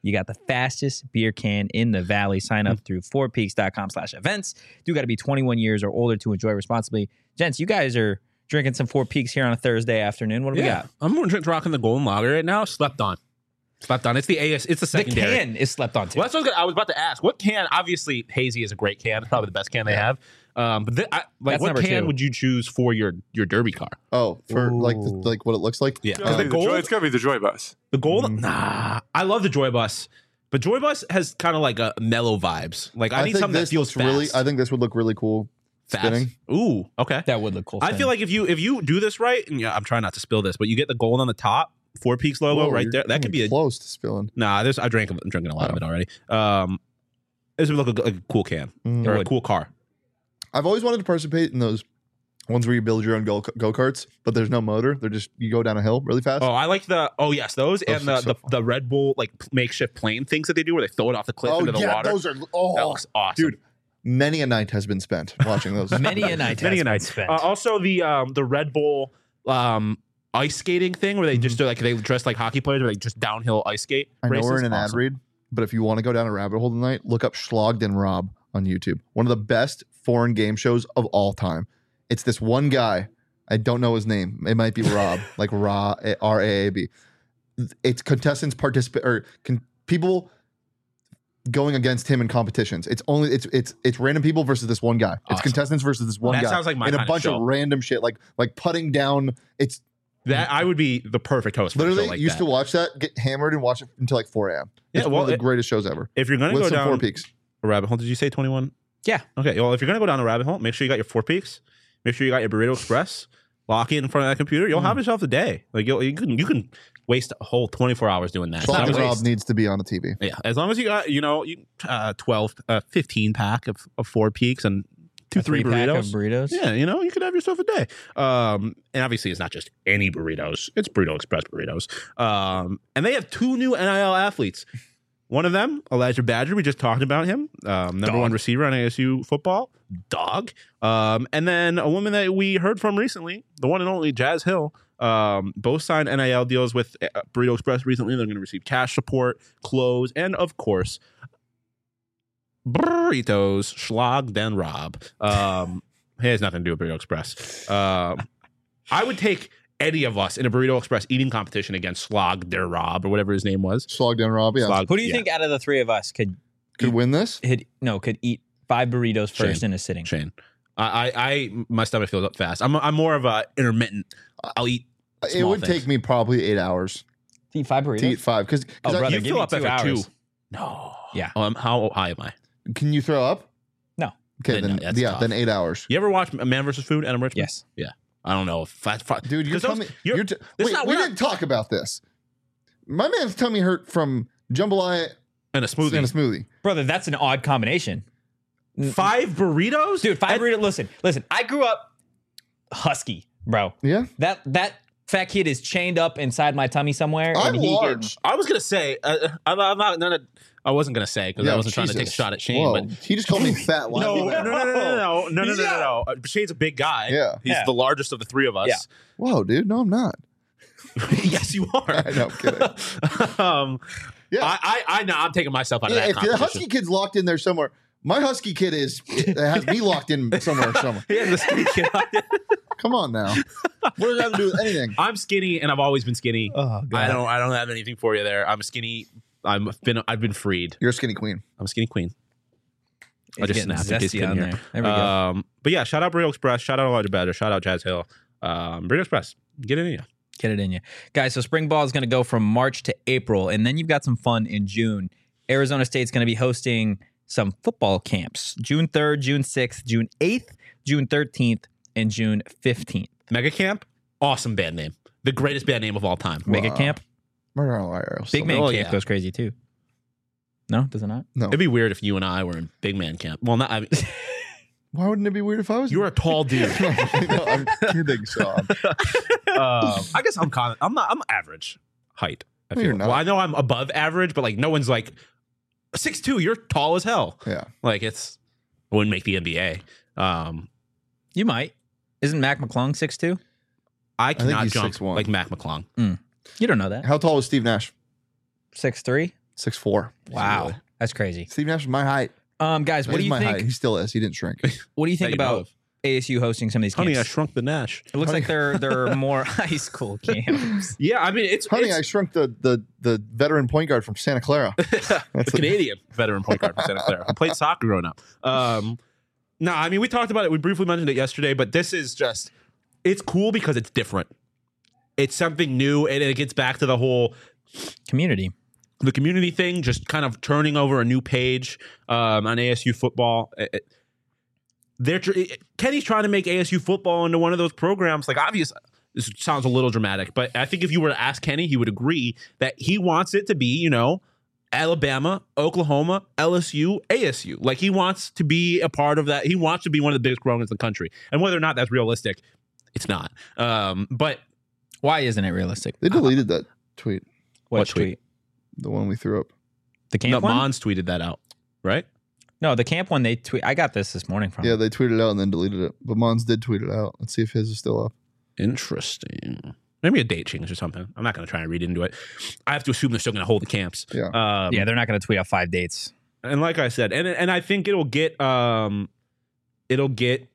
B: You got the fastest beer can in the valley. Sign up through four peaks dot com slash events. You got to be twenty-one years or older to enjoy responsibly. Gents, you guys are drinking some Four Peaks here on a Thursday afternoon. What do we got?
D: I'm rocking the Golden Lager right now. Slept on. Slept on. It's the A S. It's the
B: The
D: secondary.
B: can is slept on too.
D: Well, that's what I was, gonna, I was about to ask. What can? Obviously, Hazy is a great can. It's probably the best can they have. Um, but th- I, like,
B: That's
D: what
B: number
D: can
B: two.
D: would you choose for your your Derby car?
C: Oh, for like the,
B: Ooh.
C: like what it looks like.
D: Yeah,
A: It's
C: Uh,
A: gotta
D: the
A: be the Joy-
D: gold.
A: it's gotta be the Joy Bus.
D: The gold.
C: Mm.
D: Nah, I love the Joy Bus, but Joy Bus has kind of like a mellow vibes. Like I,
C: I
D: need
C: think
D: something that
C: this
D: feels
C: looks really.
D: fast.
C: I think this would look really cool.
D: fast.
C: spinning.
D: Ooh, okay.
B: That would look cool.
D: I feel like if you if you do this right, and yeah, I'm trying not to spill this, but you get the gold on the top, Four Peaks logo
C: Whoa,
D: right
C: you're
D: there. That could
C: coming
D: be a
C: close to spilling.
D: nah. There's I drank I'm drinking a lot of
C: Oh.
D: it already. Um, this would look like a cool can
C: Mm.
D: or a
B: would.
D: cool car.
C: I've always wanted to participate in those ones where you build your own go go karts, but there's no motor. They're just you go down a hill really fast.
D: Oh, I like the oh yes those
C: Those
D: and the,
C: look so
D: the
C: fun.
D: the Red Bull like makeshift plane things that they do where they throw it off the cliff
C: Oh,
D: into the
C: yeah,
D: water.
C: those are oh,
D: That looks awesome,
C: dude. Many a night has been spent watching those.
B: many a night.
D: Many
B: has
D: a
B: been
D: night.
B: spent.
D: Uh, also, the um, the Red Bull um, ice skating thing where they just do like they dress like hockey players, where they just downhill ice skate.
C: I know
D: races.
C: we're in an ad
D: Awesome.
C: read, but if you want to go down a rabbit hole tonight, look up Schlogged and Rob on YouTube. One of the best foreign game shows of all time. It's this one guy. I don't know his name. It might be Rob, like Ra R A A B. It's contestants participate or con- people going against him in competitions. It's only it's it's it's random people versus this one guy. It's
D: Awesome.
C: contestants versus this one
D: That
C: guy.
D: sounds like my
C: in a
D: kind of
C: bunch
D: show.
C: of random shit, like like putting down. It's
D: That I would be the perfect host. For a
C: literally
D: show like
C: used
D: that.
C: to watch that, get hammered, and watch it until like four a.m.
D: Yeah,
C: It's
D: well,
C: one of the
D: it-
C: greatest shows ever.
D: If you're gonna
C: With
D: go
C: some
D: down
C: Four Peaks.
D: a rabbit hole, did you say twenty-one?
B: Yeah.
D: Okay. Well, if you're gonna go down a rabbit hole, make sure you got your Four Peaks. Make sure you got your Burrito Express. Lock it in front of that computer. You'll
C: Mm.
D: have yourself a day. Like you'll, you can you can waste a whole twenty-four hours doing that. As
C: Schlogged
D: long
C: and
D: as-
C: Rob needs to be on the T V.
D: Yeah, as long as you got, you know, you uh, twelve, uh, fifteen pack of, of Four Peaks and two,
B: A
D: three
B: three-pack
D: burritos.
B: of burritos.
D: Yeah, you know, you could have yourself a day. Um, and obviously, it's not just any burritos; it's Burrito Express burritos. Um, and they have two new N I L athletes. One of them, Elijah Badger, we just talked about him, um, number
B: Dog.
D: one receiver on A S U football, dog. Um, and then a woman that we heard from recently, the one and only Jazz Hill. Um, both signed N I L deals with uh, Burrito Express recently. They're going to receive cash support, clothes, and of course, burritos, Schlogged and Rob. Um, it has nothing to do with Burrito Express. Um, I would take any of us in a Burrito Express eating competition against Schlogged and Rob or whatever his name was.
C: Slogged and Rob, yeah.
D: Schlogged-
B: Who do you
D: yeah,
B: think out of the three of us could
C: Could win this?
B: hit? No, could eat five burritos first
D: Shane.
B: in a sitting?
D: Shane. I, I, I, my stomach fills up fast. I'm, I'm more of a intermittent. I'll eat.
C: It
D: small
C: would
D: things.
C: take me probably eight hours
B: To eat five burritos.
C: to eat five. Because
B: Oh, brother,
D: You
B: give
D: fill
B: me
D: up
B: two
D: after
B: hours.
D: two. No.
B: Yeah.
D: Um, how high am I?
C: can you throw up?
B: No.
C: Okay,
D: Then
C: then,
D: no, that's
C: yeah,
D: tough.
C: then eight hours.
D: You ever watch Man versus Food? Adam Richmond.
B: Yes.
D: I don't know. If that's fi-
C: Dude, you're
D: 'cause
C: telling
D: those-
C: me.
D: you're-
C: You're t-
D: this
C: wait,
D: not-
C: we
D: we're not-
C: didn't talk about this. My man's tummy hurt from jambalaya
D: and a smoothie.
C: and a smoothie.
B: Brother, that's an odd combination.
D: Five burritos,
B: Dude, five
D: And-
B: burritos. Listen, listen. I grew up husky, bro.
C: Yeah,
B: That that fat kid is chained up inside my tummy somewhere.
C: I'm
B: and he
C: large.
D: I was gonna say, uh, I'm, I'm not. None of, I wasn't gonna say because I
C: Yeah,
D: wasn't trying to take a
C: Jesus.
D: shot at Shane.
C: Whoa,
D: But
C: he just called me fat. Why
D: no,
C: would
D: no,
C: that?
D: no, no, no, no, no, no, no, no,
B: Yeah.
D: no. Uh, Shane's a big guy.
C: Yeah.
D: he's
B: Yeah.
D: the largest of the three of us.
B: Yeah.
C: Whoa, dude, no, I'm not.
D: yes, you are.
C: I know, I'm kidding.
D: um,
C: Yeah,
D: I, I, I know. I'm taking myself out of
C: yeah
D: that
C: if the
D: competition.
C: husky kid's locked in there somewhere, my husky kid is it has me locked in somewhere. Somewhere.
D: Yeah, the skinny kid.
C: Come on now. What does that have to do with anything?
D: I'm skinny, and I've always been skinny.
B: Oh god.
D: I don't. I don't have anything for you there. I'm skinny. I'm been. I've been freed.
C: You're a skinny queen.
D: I'm a skinny queen. I
B: It's
D: just
B: getting
D: snapped in case you
B: zesty
D: couldn't
B: on
D: hear.
B: there. There we go.
D: Um, but yeah, shout out Burrito Express. Shout out Elijah Badger. Shout out Jazz Hill. Um, Burrito Express. Get it in you.
B: Get it in you. Guys, so spring ball is going to go from March to April, and then you've got some fun in June. Arizona State's going to be hosting some football camps June third, June sixth, June eighth, June thirteenth, and June fifteenth.
D: Mega Camp. Awesome band name. The greatest band name of all time.
B: Mega
C: Wow.
B: camp.
C: Murder on Liar.
B: Big Man
D: Oh,
B: Camp
D: yeah.
B: goes crazy too. No, does it not?
C: No.
D: It'd be weird if you and I were in Big Man Camp. Well, not. I mean,
C: Why wouldn't it be weird if I was?
D: you're a tall dude.
C: no, I'm kidding, Sean.
D: um, I guess I'm kind of. I'm not. I'm average height. I
C: No,
D: feel.
C: you're not.
D: Well, I know I'm above average, but like no one's like six two. You're tall as hell.
C: Yeah.
D: Like it's. I wouldn't make the N B A. Um,
B: You might. Isn't Mac McClung six two?
D: I
C: think
D: cannot
C: he's
D: jump
C: six one.
D: like Mac McClung.
B: You don't know that.
C: How tall was Steve Nash?
B: six three?
C: six four.
B: Wow,
D: Really?
B: that's crazy.
C: Steve Nash is my height.
B: Um, guys, what
C: That
B: do
C: is
B: you
C: my
B: think?
C: height. He still is. He didn't shrink.
B: What do you think
D: That you know
B: about
D: of.
B: A S U hosting some of these
D: Honey, I
B: camps?
D: shrunk the Nash.
B: It looks
C: Honey-
B: like they're they're more high school camps.
D: Yeah, I mean it's
C: Honey,
D: it's,
C: I shrunk the the the veteran point guard from Santa Clara.
D: the
C: That's a-
D: Canadian veteran point guard from Santa Clara. I played soccer growing up. Um, no, I mean we talked about it. We briefly mentioned it yesterday, but this is just it's cool because it's different. It's something new, and it gets back to the whole
B: Community.
D: the community thing, just kind of turning over a new page um, on A S U football. It- it- they're tr- it- Kenny's trying to make A S U football into one of those programs. Like, obvious, this sounds a little dramatic, but I think if you were to ask Kenny, he would agree that he wants it to be, you know, Alabama, Oklahoma, L S U, A S U. Like, he wants to be a part of that. He wants to be one of the biggest programs in the country. And whether or not that's realistic, it's not. Um, but
B: Why isn't it realistic?
C: They deleted that tweet,
B: What,
D: what tweet?
B: tweet?
C: the one we threw up.
B: The camp
D: no,
B: one?
D: Mons tweeted that out, right?
B: No, the camp one. They tweet. I got this this morning from.
C: Yeah, they tweeted it out and then deleted it. But Mons did tweet it out. Let's see if his is still up.
D: Interesting. Maybe a date change or something. I'm not going to try and read into it. I have to assume they're still going to hold the camps.
C: Yeah.
D: Um,
B: yeah, they're not going to tweet out five dates.
D: and like I said, and and I think it'll get um, it'll get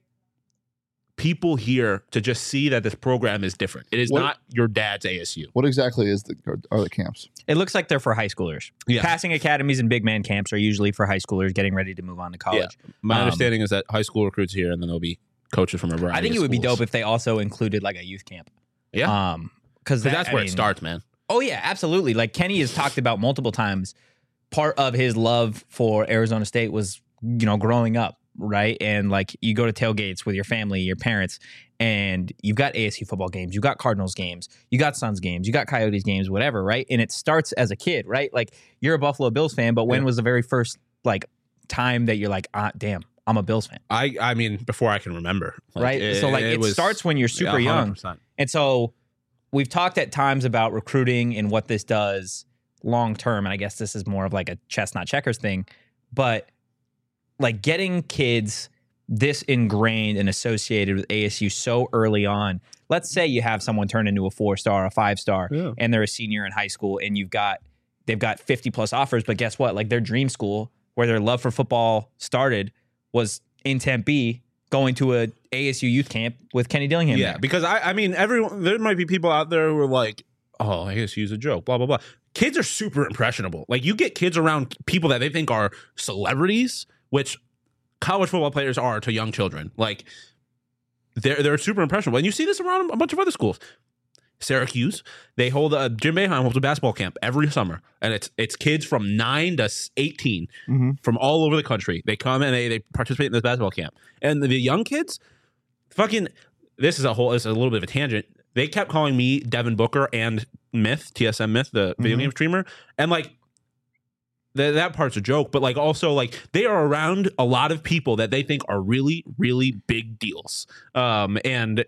D: people here to just see that this program is different. It is
C: What-
D: not your dad's A S U.
C: What exactly is the are, are the camps?
B: It looks like they're for high schoolers.
D: Yeah.
B: Passing academies and big man camps are usually for high schoolers getting ready to move on to college.
D: My
B: Um,
D: understanding is that high school recruits here, and then there'll be coaches from a variety.
B: I think it
D: of
B: would be
D: schools.
B: dope if they also included like a youth camp.
D: Yeah,
B: Um, because
D: because that's where it starts, man.
B: Oh yeah, absolutely. Like Kenny has talked about multiple times. Part of his love for Arizona State was, you know, growing up, right? And like you go to tailgates with your family, your parents, and you've got A S U football games, you got Cardinals games, you got Suns games, you got Coyotes games, whatever, right? And it starts as a kid, right? Like you're a Buffalo Bills fan, but when
D: Yeah.
B: was the very first like time that you're like, ah, damn, I'm a Bills fan,
D: I I mean, before I can remember, Like,
B: right? so like it,
D: was-
B: starts when you're super
D: yeah,
B: young.
D: one hundred percent.
B: And so we've talked at times about recruiting and what this does long term. And I guess this is more of like a chestnut checkers thing. But like getting kids this ingrained and associated with A S U so early on. Let's say you have someone turn into a four star, a five star,
D: Yeah.
B: and they're a senior in high school, and you've got they've got fifty plus offers. But guess what? Like their dream school where their love for football started was in Tempe, going to a A S U youth camp with Kenny Dillingham.
D: Yeah,
B: there.
D: because I, I mean, everyone. There might be people out there who are like, "Oh, I guess use a joke." Blah blah blah. Kids are super impressionable. Like you get kids around people that they think are celebrities, which college football players are to young children. Like they're they're super impressionable, and you see this around a bunch of other schools. Syracuse, they hold a Jim Boeheim holds a basketball camp every summer, and it's it's kids from nine to eighteen
C: Mm-hmm.
D: from all over the country. They come and they they participate in this basketball camp, and the, the young kids, fucking. This is a whole. This is a little bit of a tangent. They kept calling me Devin Booker and Myth T S M Myth, the video
C: Mhm.
D: game streamer, and like. Th- that part's a joke, but like also like they are around a lot of people that they think are really, really big deals. Um, and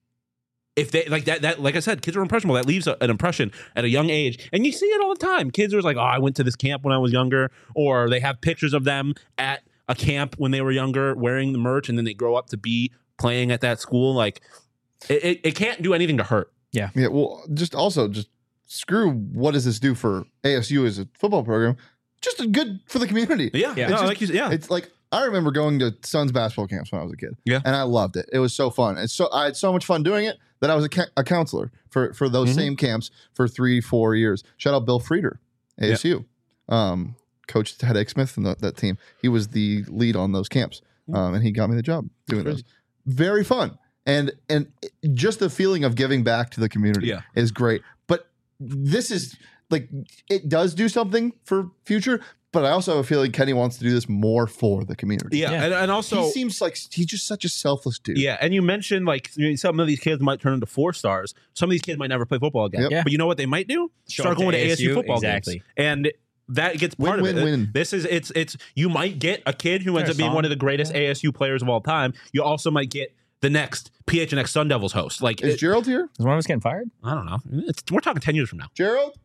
D: if they like that, that like I said, kids are impressionable. That leaves a, an impression at a young age, and you see it all the time. Kids are like, "Oh, I went to this camp when I was younger," or they have pictures of them at a camp when they were younger, wearing the merch, and then they grow up to be playing at that school. Like, it, it, it can't do anything to hurt.
C: Yeah, well, just also just screw what does this do for A S U as a football program? Just a good for the community.
D: Yeah,
B: Yeah.
D: No,
C: It's just-
D: like you, yeah.
C: It's like I remember going to Suns basketball camps when I was a kid.
D: Yeah.
C: and I loved it. It was so fun. It's so I had so much fun doing it that I was a, ca- a counselor for for those
D: Mhm.
C: same camps for three four years. Shout out Bill Frieder, A S U, um, coached Ted Ake Smith and the, that team. He was the lead on those camps, um, and he got me the job doing
D: Crazy.
C: those. Very fun, and and just the feeling of giving back to the community
D: Yeah.
C: is great. But this is like it does do something for future. But I also feel like Kenny wants to do this more for the community.
D: yeah,
B: Yeah.
D: And, and also
C: he seems like he's just such a selfless dude.
D: Yeah, and you mentioned like you know, some of these kids might turn into four stars. Some of these kids might never play football again.
C: Yep.
B: Yeah.
D: But you know what they might do?
B: Show
D: Start
B: up to
D: going to
B: A S U,
D: A S U football
B: exactly.
D: games. And that gets
C: Win,
D: part
C: win,
D: of it.
C: win.
D: This is it's it's you might get a kid who ends
B: Their
D: up being
B: song.
D: one of the greatest A S U players of all time. You also might get the next P H N X Sun Devils host. Like
C: Is
D: it-
C: Gerald here?
B: Is one of us getting fired?
D: I don't know. It's, we're talking ten years from now.
C: Gerald?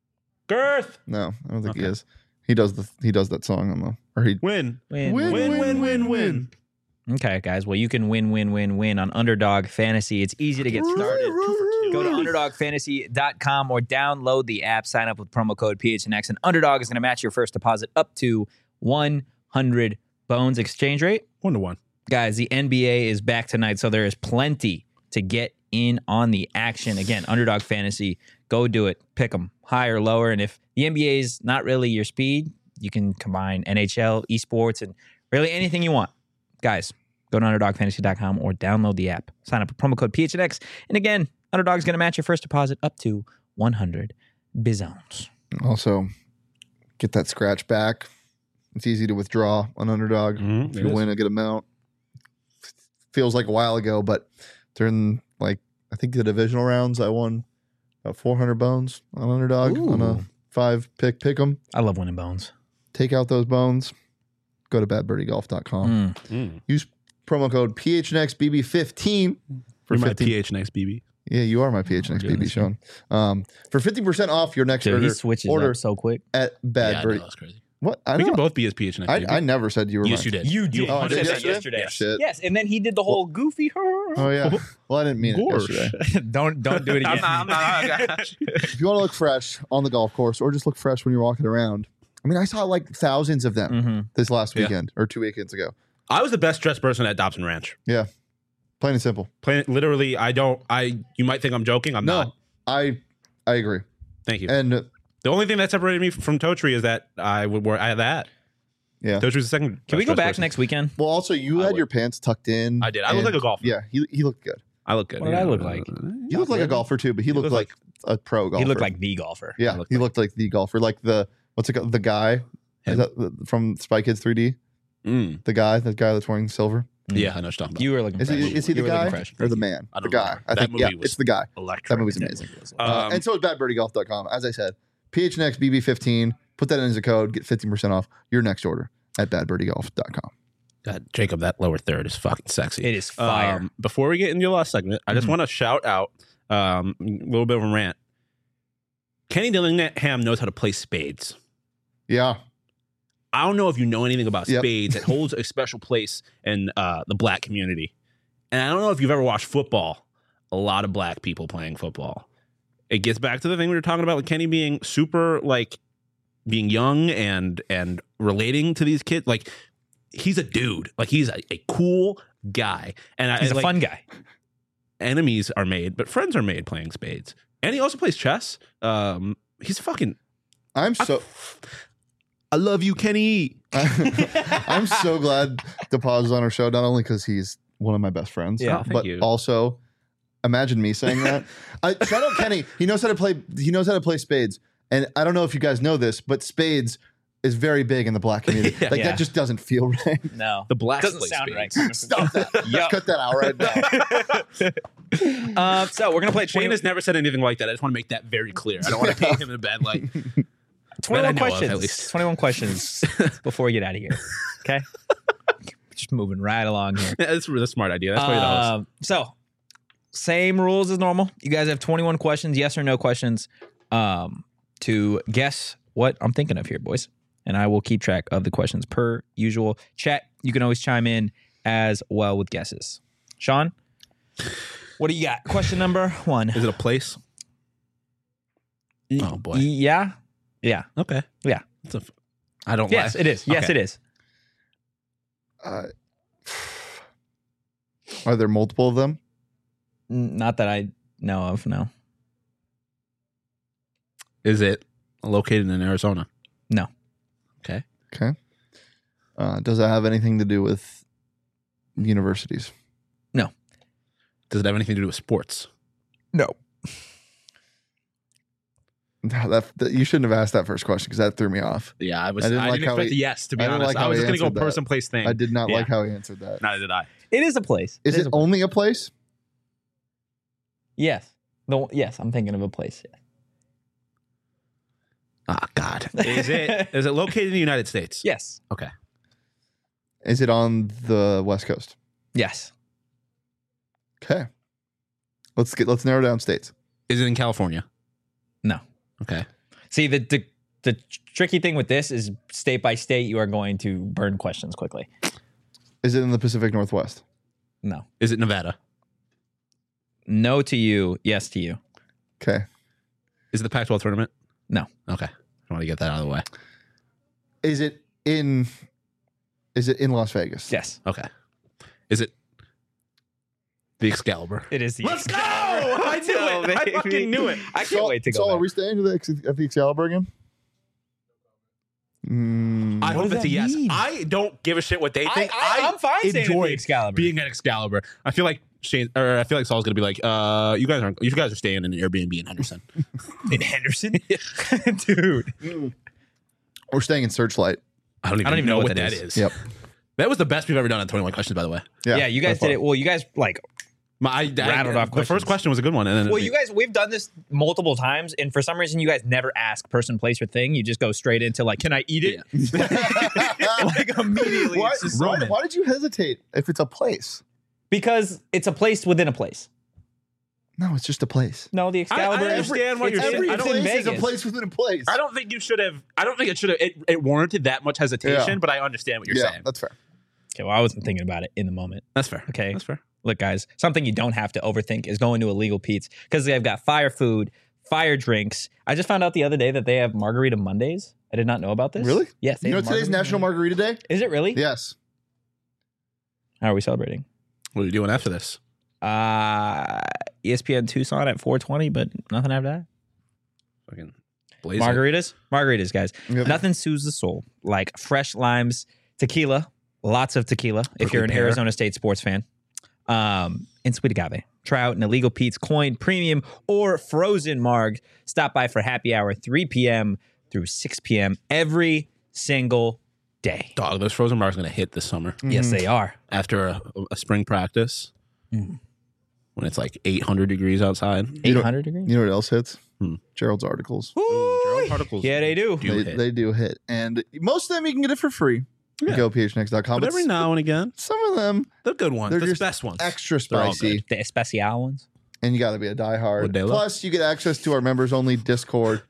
D: Girth,
C: No, I don't think he
D: Okay.
C: is. He does the he does that song on the or he
D: win,
B: Win,
C: Win,
D: win,
C: win,
D: win, win,
C: win,
D: win.
B: Okay, guys. Well, you can win, win, win, win on Underdog Fantasy. It's easy to get started. Go to underdog fantasy dot com or download the app. Sign up with promo code P H N X, and Underdog is going to match your first deposit up to one hundred bones. Exchange rate?
D: One to one.
B: Guys, the N B A is back tonight, so there is plenty to get in on the action. Again, Underdog Fantasy. Go do it. Pick them high or lower. And if the N B A is not really your speed, you can combine N H L, esports, and really anything you want. Guys, go to underdog fantasy dot com or download the app. Sign up with promo code P H N X. And again, Underdog's going to match your first deposit up to one hundred bizones.
C: Also, get that scratch back. It's easy to withdraw on Underdog.
D: Mhm,
C: if
D: it
C: you
D: is.
C: win a good amount. Feels like a while ago, but during, like, I think the divisional rounds, I won about four hundred bones on Underdog on a
B: Ooh.
C: five pick pick 'em.
B: I love winning bones.
C: Take out those bones. Go to bad birdie golf dot com.
B: Mm.
D: Mm.
C: Use promo code P H N X B B fifteen for
D: You're my
C: fifteen.
D: P H N X B B.
C: Yeah, you are my P H N X B B,
D: goodness.
C: Sean. Um, for fifteen percent off your next
B: Dude,
C: order,
B: he switches
C: order
B: up so quick.
C: at Bad
D: yeah, I
C: Birdie.
D: know, that's crazy.
C: What? I
D: We
C: don't
D: can both be as P H N X
C: I,
D: B B.
C: I never said you were
D: Yes,
C: mine.
D: you did.
B: You did.
C: Oh, I
B: You
C: did
B: said that
C: yesterday?
B: yesterday.
C: Yeah. Shit.
B: Yes, and then he did the whole goofy.
C: Oh, yeah. Well, I didn't mean it
D: Gosh.
C: yesterday.
B: don't don't do it again.
D: I'm not, I'm not, I got you.
C: If you want to look fresh on the golf course or just look fresh when you're walking around, I mean, I saw like thousands of them
B: Mhm.
C: this last
D: Yeah.
C: weekend or two weekends ago.
D: I was the best dressed person at Dobson Ranch.
C: Yeah. Plain and simple.
D: Plain, literally, I don't. I. You might think I'm joking. I'm
C: No,
D: not.
C: I I agree.
D: Thank you.
C: And uh,
D: The only thing that separated me from Totri is that I would wear I had that.
C: yeah.
D: Totri's the second.
B: Can we go
D: best
B: back
D: person.
B: next weekend?
C: Well, also, you
D: I
C: had
D: would.
C: your pants tucked in.
D: I did. I look
C: and-
D: like a golfer.
C: Yeah, he, he looked good.
D: I look good.
B: What did I look like?
C: You looked like a golfer too, but he looked
D: looked
C: like, a pro golfer.
B: He looked like the golfer.
C: Yeah,
D: I looked
C: he
D: like-
C: looked like the golfer. Like the, what's it called? The guy
D: Him.
C: is that the- from Spy Kids three D?
D: Mm.
C: The guy, the guy that's wearing silver.
D: Yeah, I know what you're talking about.
B: You were looking
C: Is
B: fresh.
C: he, is he
B: You
C: the
B: were looking
C: guy
B: fresh.
C: or the man?
D: I
C: The
D: don't
C: guy.
D: remember.
C: I
D: That
C: think,
D: movie
C: yeah,
D: was
C: it's the guy.
D: Electric.
C: That movie's amazing. Uh,
D: Um,
C: and so is bad birdie golf dot com. As I said, P H N X B B fifteen. Put that in as a code. Get fifteen percent off your next order at bad birdie golf dot com.
D: God, Jacob, that lower third is fucking sexy.
B: It is fire.
D: Um, before we get into your last segment, I just
B: Mhm.
D: want to shout out um, a little bit of a rant. Kenny Dillingham knows how to play spades.
C: Yeah.
D: I don't know if you know anything about
C: Yep.
D: spades. It holds a special place in uh, the black community. And I don't know if you've ever watched football. A lot of black people playing football. It gets back to the thing we were talking about with Kenny being super, like, being young and and relating to these kids. Like, he's a dude. Like, he's a, a cool guy. And I,
B: He's a
D: like,
B: fun guy.
D: enemies are made, but friends are made playing spades. And he also plays chess. Um, he's fucking.
C: I'm so
D: I love you, Kenny.
C: I'm so glad DePaz is on our show, not only because he's one of my best friends,
B: Yeah,
D: thank
C: but
D: you.
C: also imagine me saying that. I, shout out Kenny. He knows how to play. He knows how to play spades. And I don't know if you guys know this, but spades is very big in the black community.
D: Yeah.
C: like
B: Yeah.
C: that just doesn't feel right.
B: No.
D: The black
B: Doesn't
D: play
B: sound
D: spades.
B: right.
C: Stop that.
B: Yup.
C: Cut that out right now.
B: Uh, so we're gonna play
D: Shane
B: twenty,
D: has never said anything like that. I just want to make that very clear. I don't want to paint him in a bad light.
B: twenty-one
D: that I know of,
B: questions.
D: at least.
B: twenty-one questions before we get out of here. Okay. Just moving right along here.
D: That's a really smart idea. That's why you're the host.
B: Um, so, same rules as normal. You guys have twenty-one questions, yes or no questions, um, to guess what I'm thinking of here, boys. And I will keep track of the questions per usual. Chat, you can always chime in as well with guesses. Sean, what do you got? Question number one.
D: Is it a place? Oh, boy.
B: Y- Yeah. Yeah.
D: Okay.
B: Yeah.
D: It's a, I don't
B: Yes,
D: lie.
B: it is. Yes,
D: Okay.
B: it is.
C: Uh, are there multiple of them?
B: N- Not that I know of, no.
D: Is it located in Arizona?
B: No.
D: Okay.
C: Okay. Uh, does it have anything to do with universities?
D: Does it have anything to do with sports?
B: No.
C: That, that- you shouldn't have asked that first question because that threw me off.
D: Yeah, I was.
C: I
D: I
C: didn't
D: didn't,
C: like how
D: expect
C: he-
D: a yes. To be
C: I didn't
D: honest,
C: like
D: I
C: how
D: was
C: he
D: just going to go
C: answered that.
D: person, place, thing.
C: I did not
D: Yeah.
C: like how he answered that.
D: Neither did I.
B: It is a place.
C: Is
B: It
C: it
B: a place.
C: only a place?
B: Yes. The, yes, I'm thinking of a place.
D: Oh God. Is it? Is it located in the United States?
B: Yes.
D: Okay.
C: Is it on the West Coast?
B: Yes.
C: Okay. Let's get let's narrow down states.
D: Is it in California?
B: No.
D: Okay.
B: See, the, the the tricky thing with this is state by state, you are going to burn questions quickly.
C: Is it in the Pacific Northwest?
B: No.
D: Is it Nevada?
B: No to you. Yes to you.
C: Okay.
D: Is it the Pac twelve tournament?
B: No.
D: Okay. I want to get that out of the way.
C: Is it in? Is it in Las Vegas?
B: Yes.
D: Okay. Is it the Excalibur?
B: It is the
D: Let's go! I knew it. I fucking knew it.
B: I can't
C: So,
B: wait to
C: so
B: go
C: are
B: back.
C: we staying at the, Ex- at the Excalibur again? Mm,
D: I
B: What
D: hope
B: does
D: it's a
B: that
D: yes.
B: mean?
D: I don't give a shit what they
B: I,
D: think.
B: I, I'm fine saying
D: enjoy
B: the Excalibur.
D: being at Excalibur. I feel like Shane, or I feel like Saul's gonna be like, uh, you guys aren't. You guys are staying in an Airbnb in Henderson.
B: in Henderson, dude.
C: we're staying in Searchlight.
D: I don't even,
B: I don't even
D: know,
B: know
D: what
B: what
D: that
B: that
D: is.
B: is.
C: Yep.
D: That was the best we've ever done on twenty-one questions, by the way.
B: Yeah, you guys
C: by
B: did
C: far.
B: it. Well, you guys like.
D: My, I,
B: Rattled
D: I,
B: off
D: the
B: questions.
D: first question was a good one, and then
B: Well, you guys, we've done this multiple times, and for some reason, you guys never ask person, place, or thing. You just go straight into like, "Can I eat it?" like immediately,
C: Why,
B: it's just
C: why,
B: Roman.
C: why did you hesitate if it's a place?
B: Because it's a place within a place.
C: No, it's just a place.
B: No, the Excalibur.
D: I understand what
B: it's-
D: you're saying.
C: Every
D: I don't-
B: it's in
C: place is a
B: Vegas.
C: place within a place.
D: I don't think you should have. I don't think it should have. It, it warranted that much hesitation,
C: Yeah.
D: but I understand what you're
C: yeah,
D: saying.
C: that's fair.
B: Okay, well, I wasn't thinking about it in the moment.
D: That's fair.
B: Okay.
D: That's fair.
B: Look, guys, something you don't have to overthink is going to Illegal Pete's because they've got fire food, fire drinks. I just found out the other day that they have Margarita Mondays. I did not know about this.
C: Really?
B: Yes. they
C: You know
B: have
C: today's
B: Margarita
C: National
B: Monday.
C: Margarita Day?
B: Is it really?
C: Yes.
B: How are we celebrating?
D: What are you doing after this?
B: Uh, E S P N Tucson at four twenty, but nothing after that.
D: Fucking blaze it.
B: Margaritas? Margaritas, guys.
C: Yep.
B: Nothing soothes the soul like fresh limes, tequila, lots of tequila if
D: Prickly
B: you're an
D: pear.
B: Arizona State sports fan. Um, and sweet agave. Try out an Illegal Pete's Coin Premium or Frozen Marg. Stop by for happy hour three p.m. through six p.m. every single day.
D: Dog, those frozen bars going to hit this summer
B: Yes, they are.
D: after a, a spring practice
B: Mm.
D: when it's like eight hundred degrees outside.
C: You know-
B: eight hundred degrees?
C: You know what else hits?
D: Hmm.
C: Gerald's articles.
D: Ooh, Gerald particles.
B: Yeah, they do.
D: do
C: They,
D: hit.
C: they do hit. And most of them you can get it for free.
D: Yeah.
C: Go P H N X dot com.
D: But every now and again,
C: some of them
D: the good ones,
C: They're
D: the
C: just
D: best ones.
C: extra
D: They're all
C: spicy.
B: The especial ones.
C: And you got to be a diehard.
D: Modelo.
C: Plus, you get access to our members only Discord.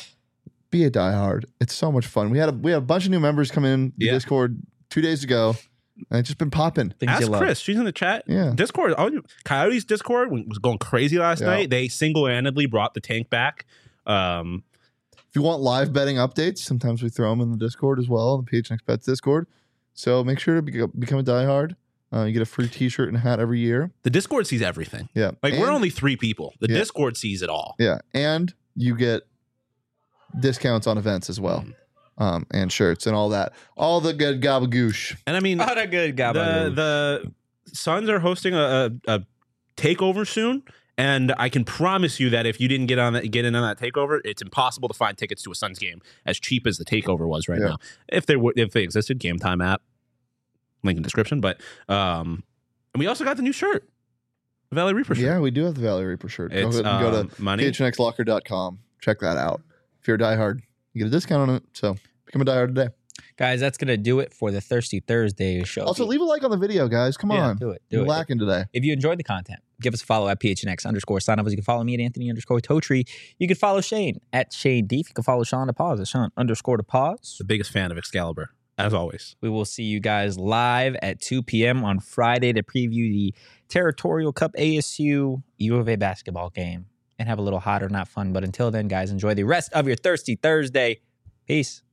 C: Be a diehard. It's so much fun. We had a we had a bunch of new members come in the
D: Yeah.
C: Discord two days ago, and it's just been popping.
B: Things you
D: Ask
B: love.
D: Chris. She's in the chat.
C: Yeah.
D: Discord. all you- Coyotes Discord was going crazy last
C: Yeah.
D: night. They single-handedly brought the tank back. Um,
C: If you want live betting updates, sometimes we throw them in the Discord as well, the P H N X Bets Discord. So make sure to be, become a diehard. Uh, you get a free T-shirt and a hat every year.
D: the Discord sees everything.
C: Yeah,
D: Like we're
C: And-
D: only three people. The
C: Yeah.
D: Discord sees it all.
C: yeah, and you get discounts on events as well,
D: Mm.
C: um, and shirts and all that, all the good gabagoosh.
D: And I mean,
B: What a good
D: the
B: gabagoo.
D: the Suns are hosting a, a, a takeover soon, and I can promise you that if you didn't get on that, get in on that takeover, it's impossible to find tickets to a Suns game as cheap as the takeover was right
C: Yeah.
D: now. If there were, if they existed, Game Time app, link in description. But um, and we also got the new shirt, the Valley Reaper shirt.
C: Yeah, we do have the Valley Reaper shirt.
D: It's
C: go, ahead and go
D: um,
C: to
D: money.
C: P H N X locker dot com. Check that out. If you're a diehard, you get a discount on it. So become a diehard today.
B: Guys, that's going to do it for the Thirsty Thursday show.
C: Also, leave a like on the video, guys. Come
B: Yeah,
C: on.
B: do it. Do
C: You're
B: it.
C: lacking today.
B: If you enjoyed the content, give us a follow at P H N X underscore sign up. You can follow me at Anthony underscore Totri. You can follow Shane at Shane Deef. You can follow Sean to pause at Sean underscore to pause.
D: The biggest fan of Excalibur, as always.
B: We will see you guys live at two p.m. on Friday to preview the Territorial Cup A S U U of A basketball game and have a little hot or not fun. But until then, guys, enjoy the rest of your Thirsty Thursday. Peace.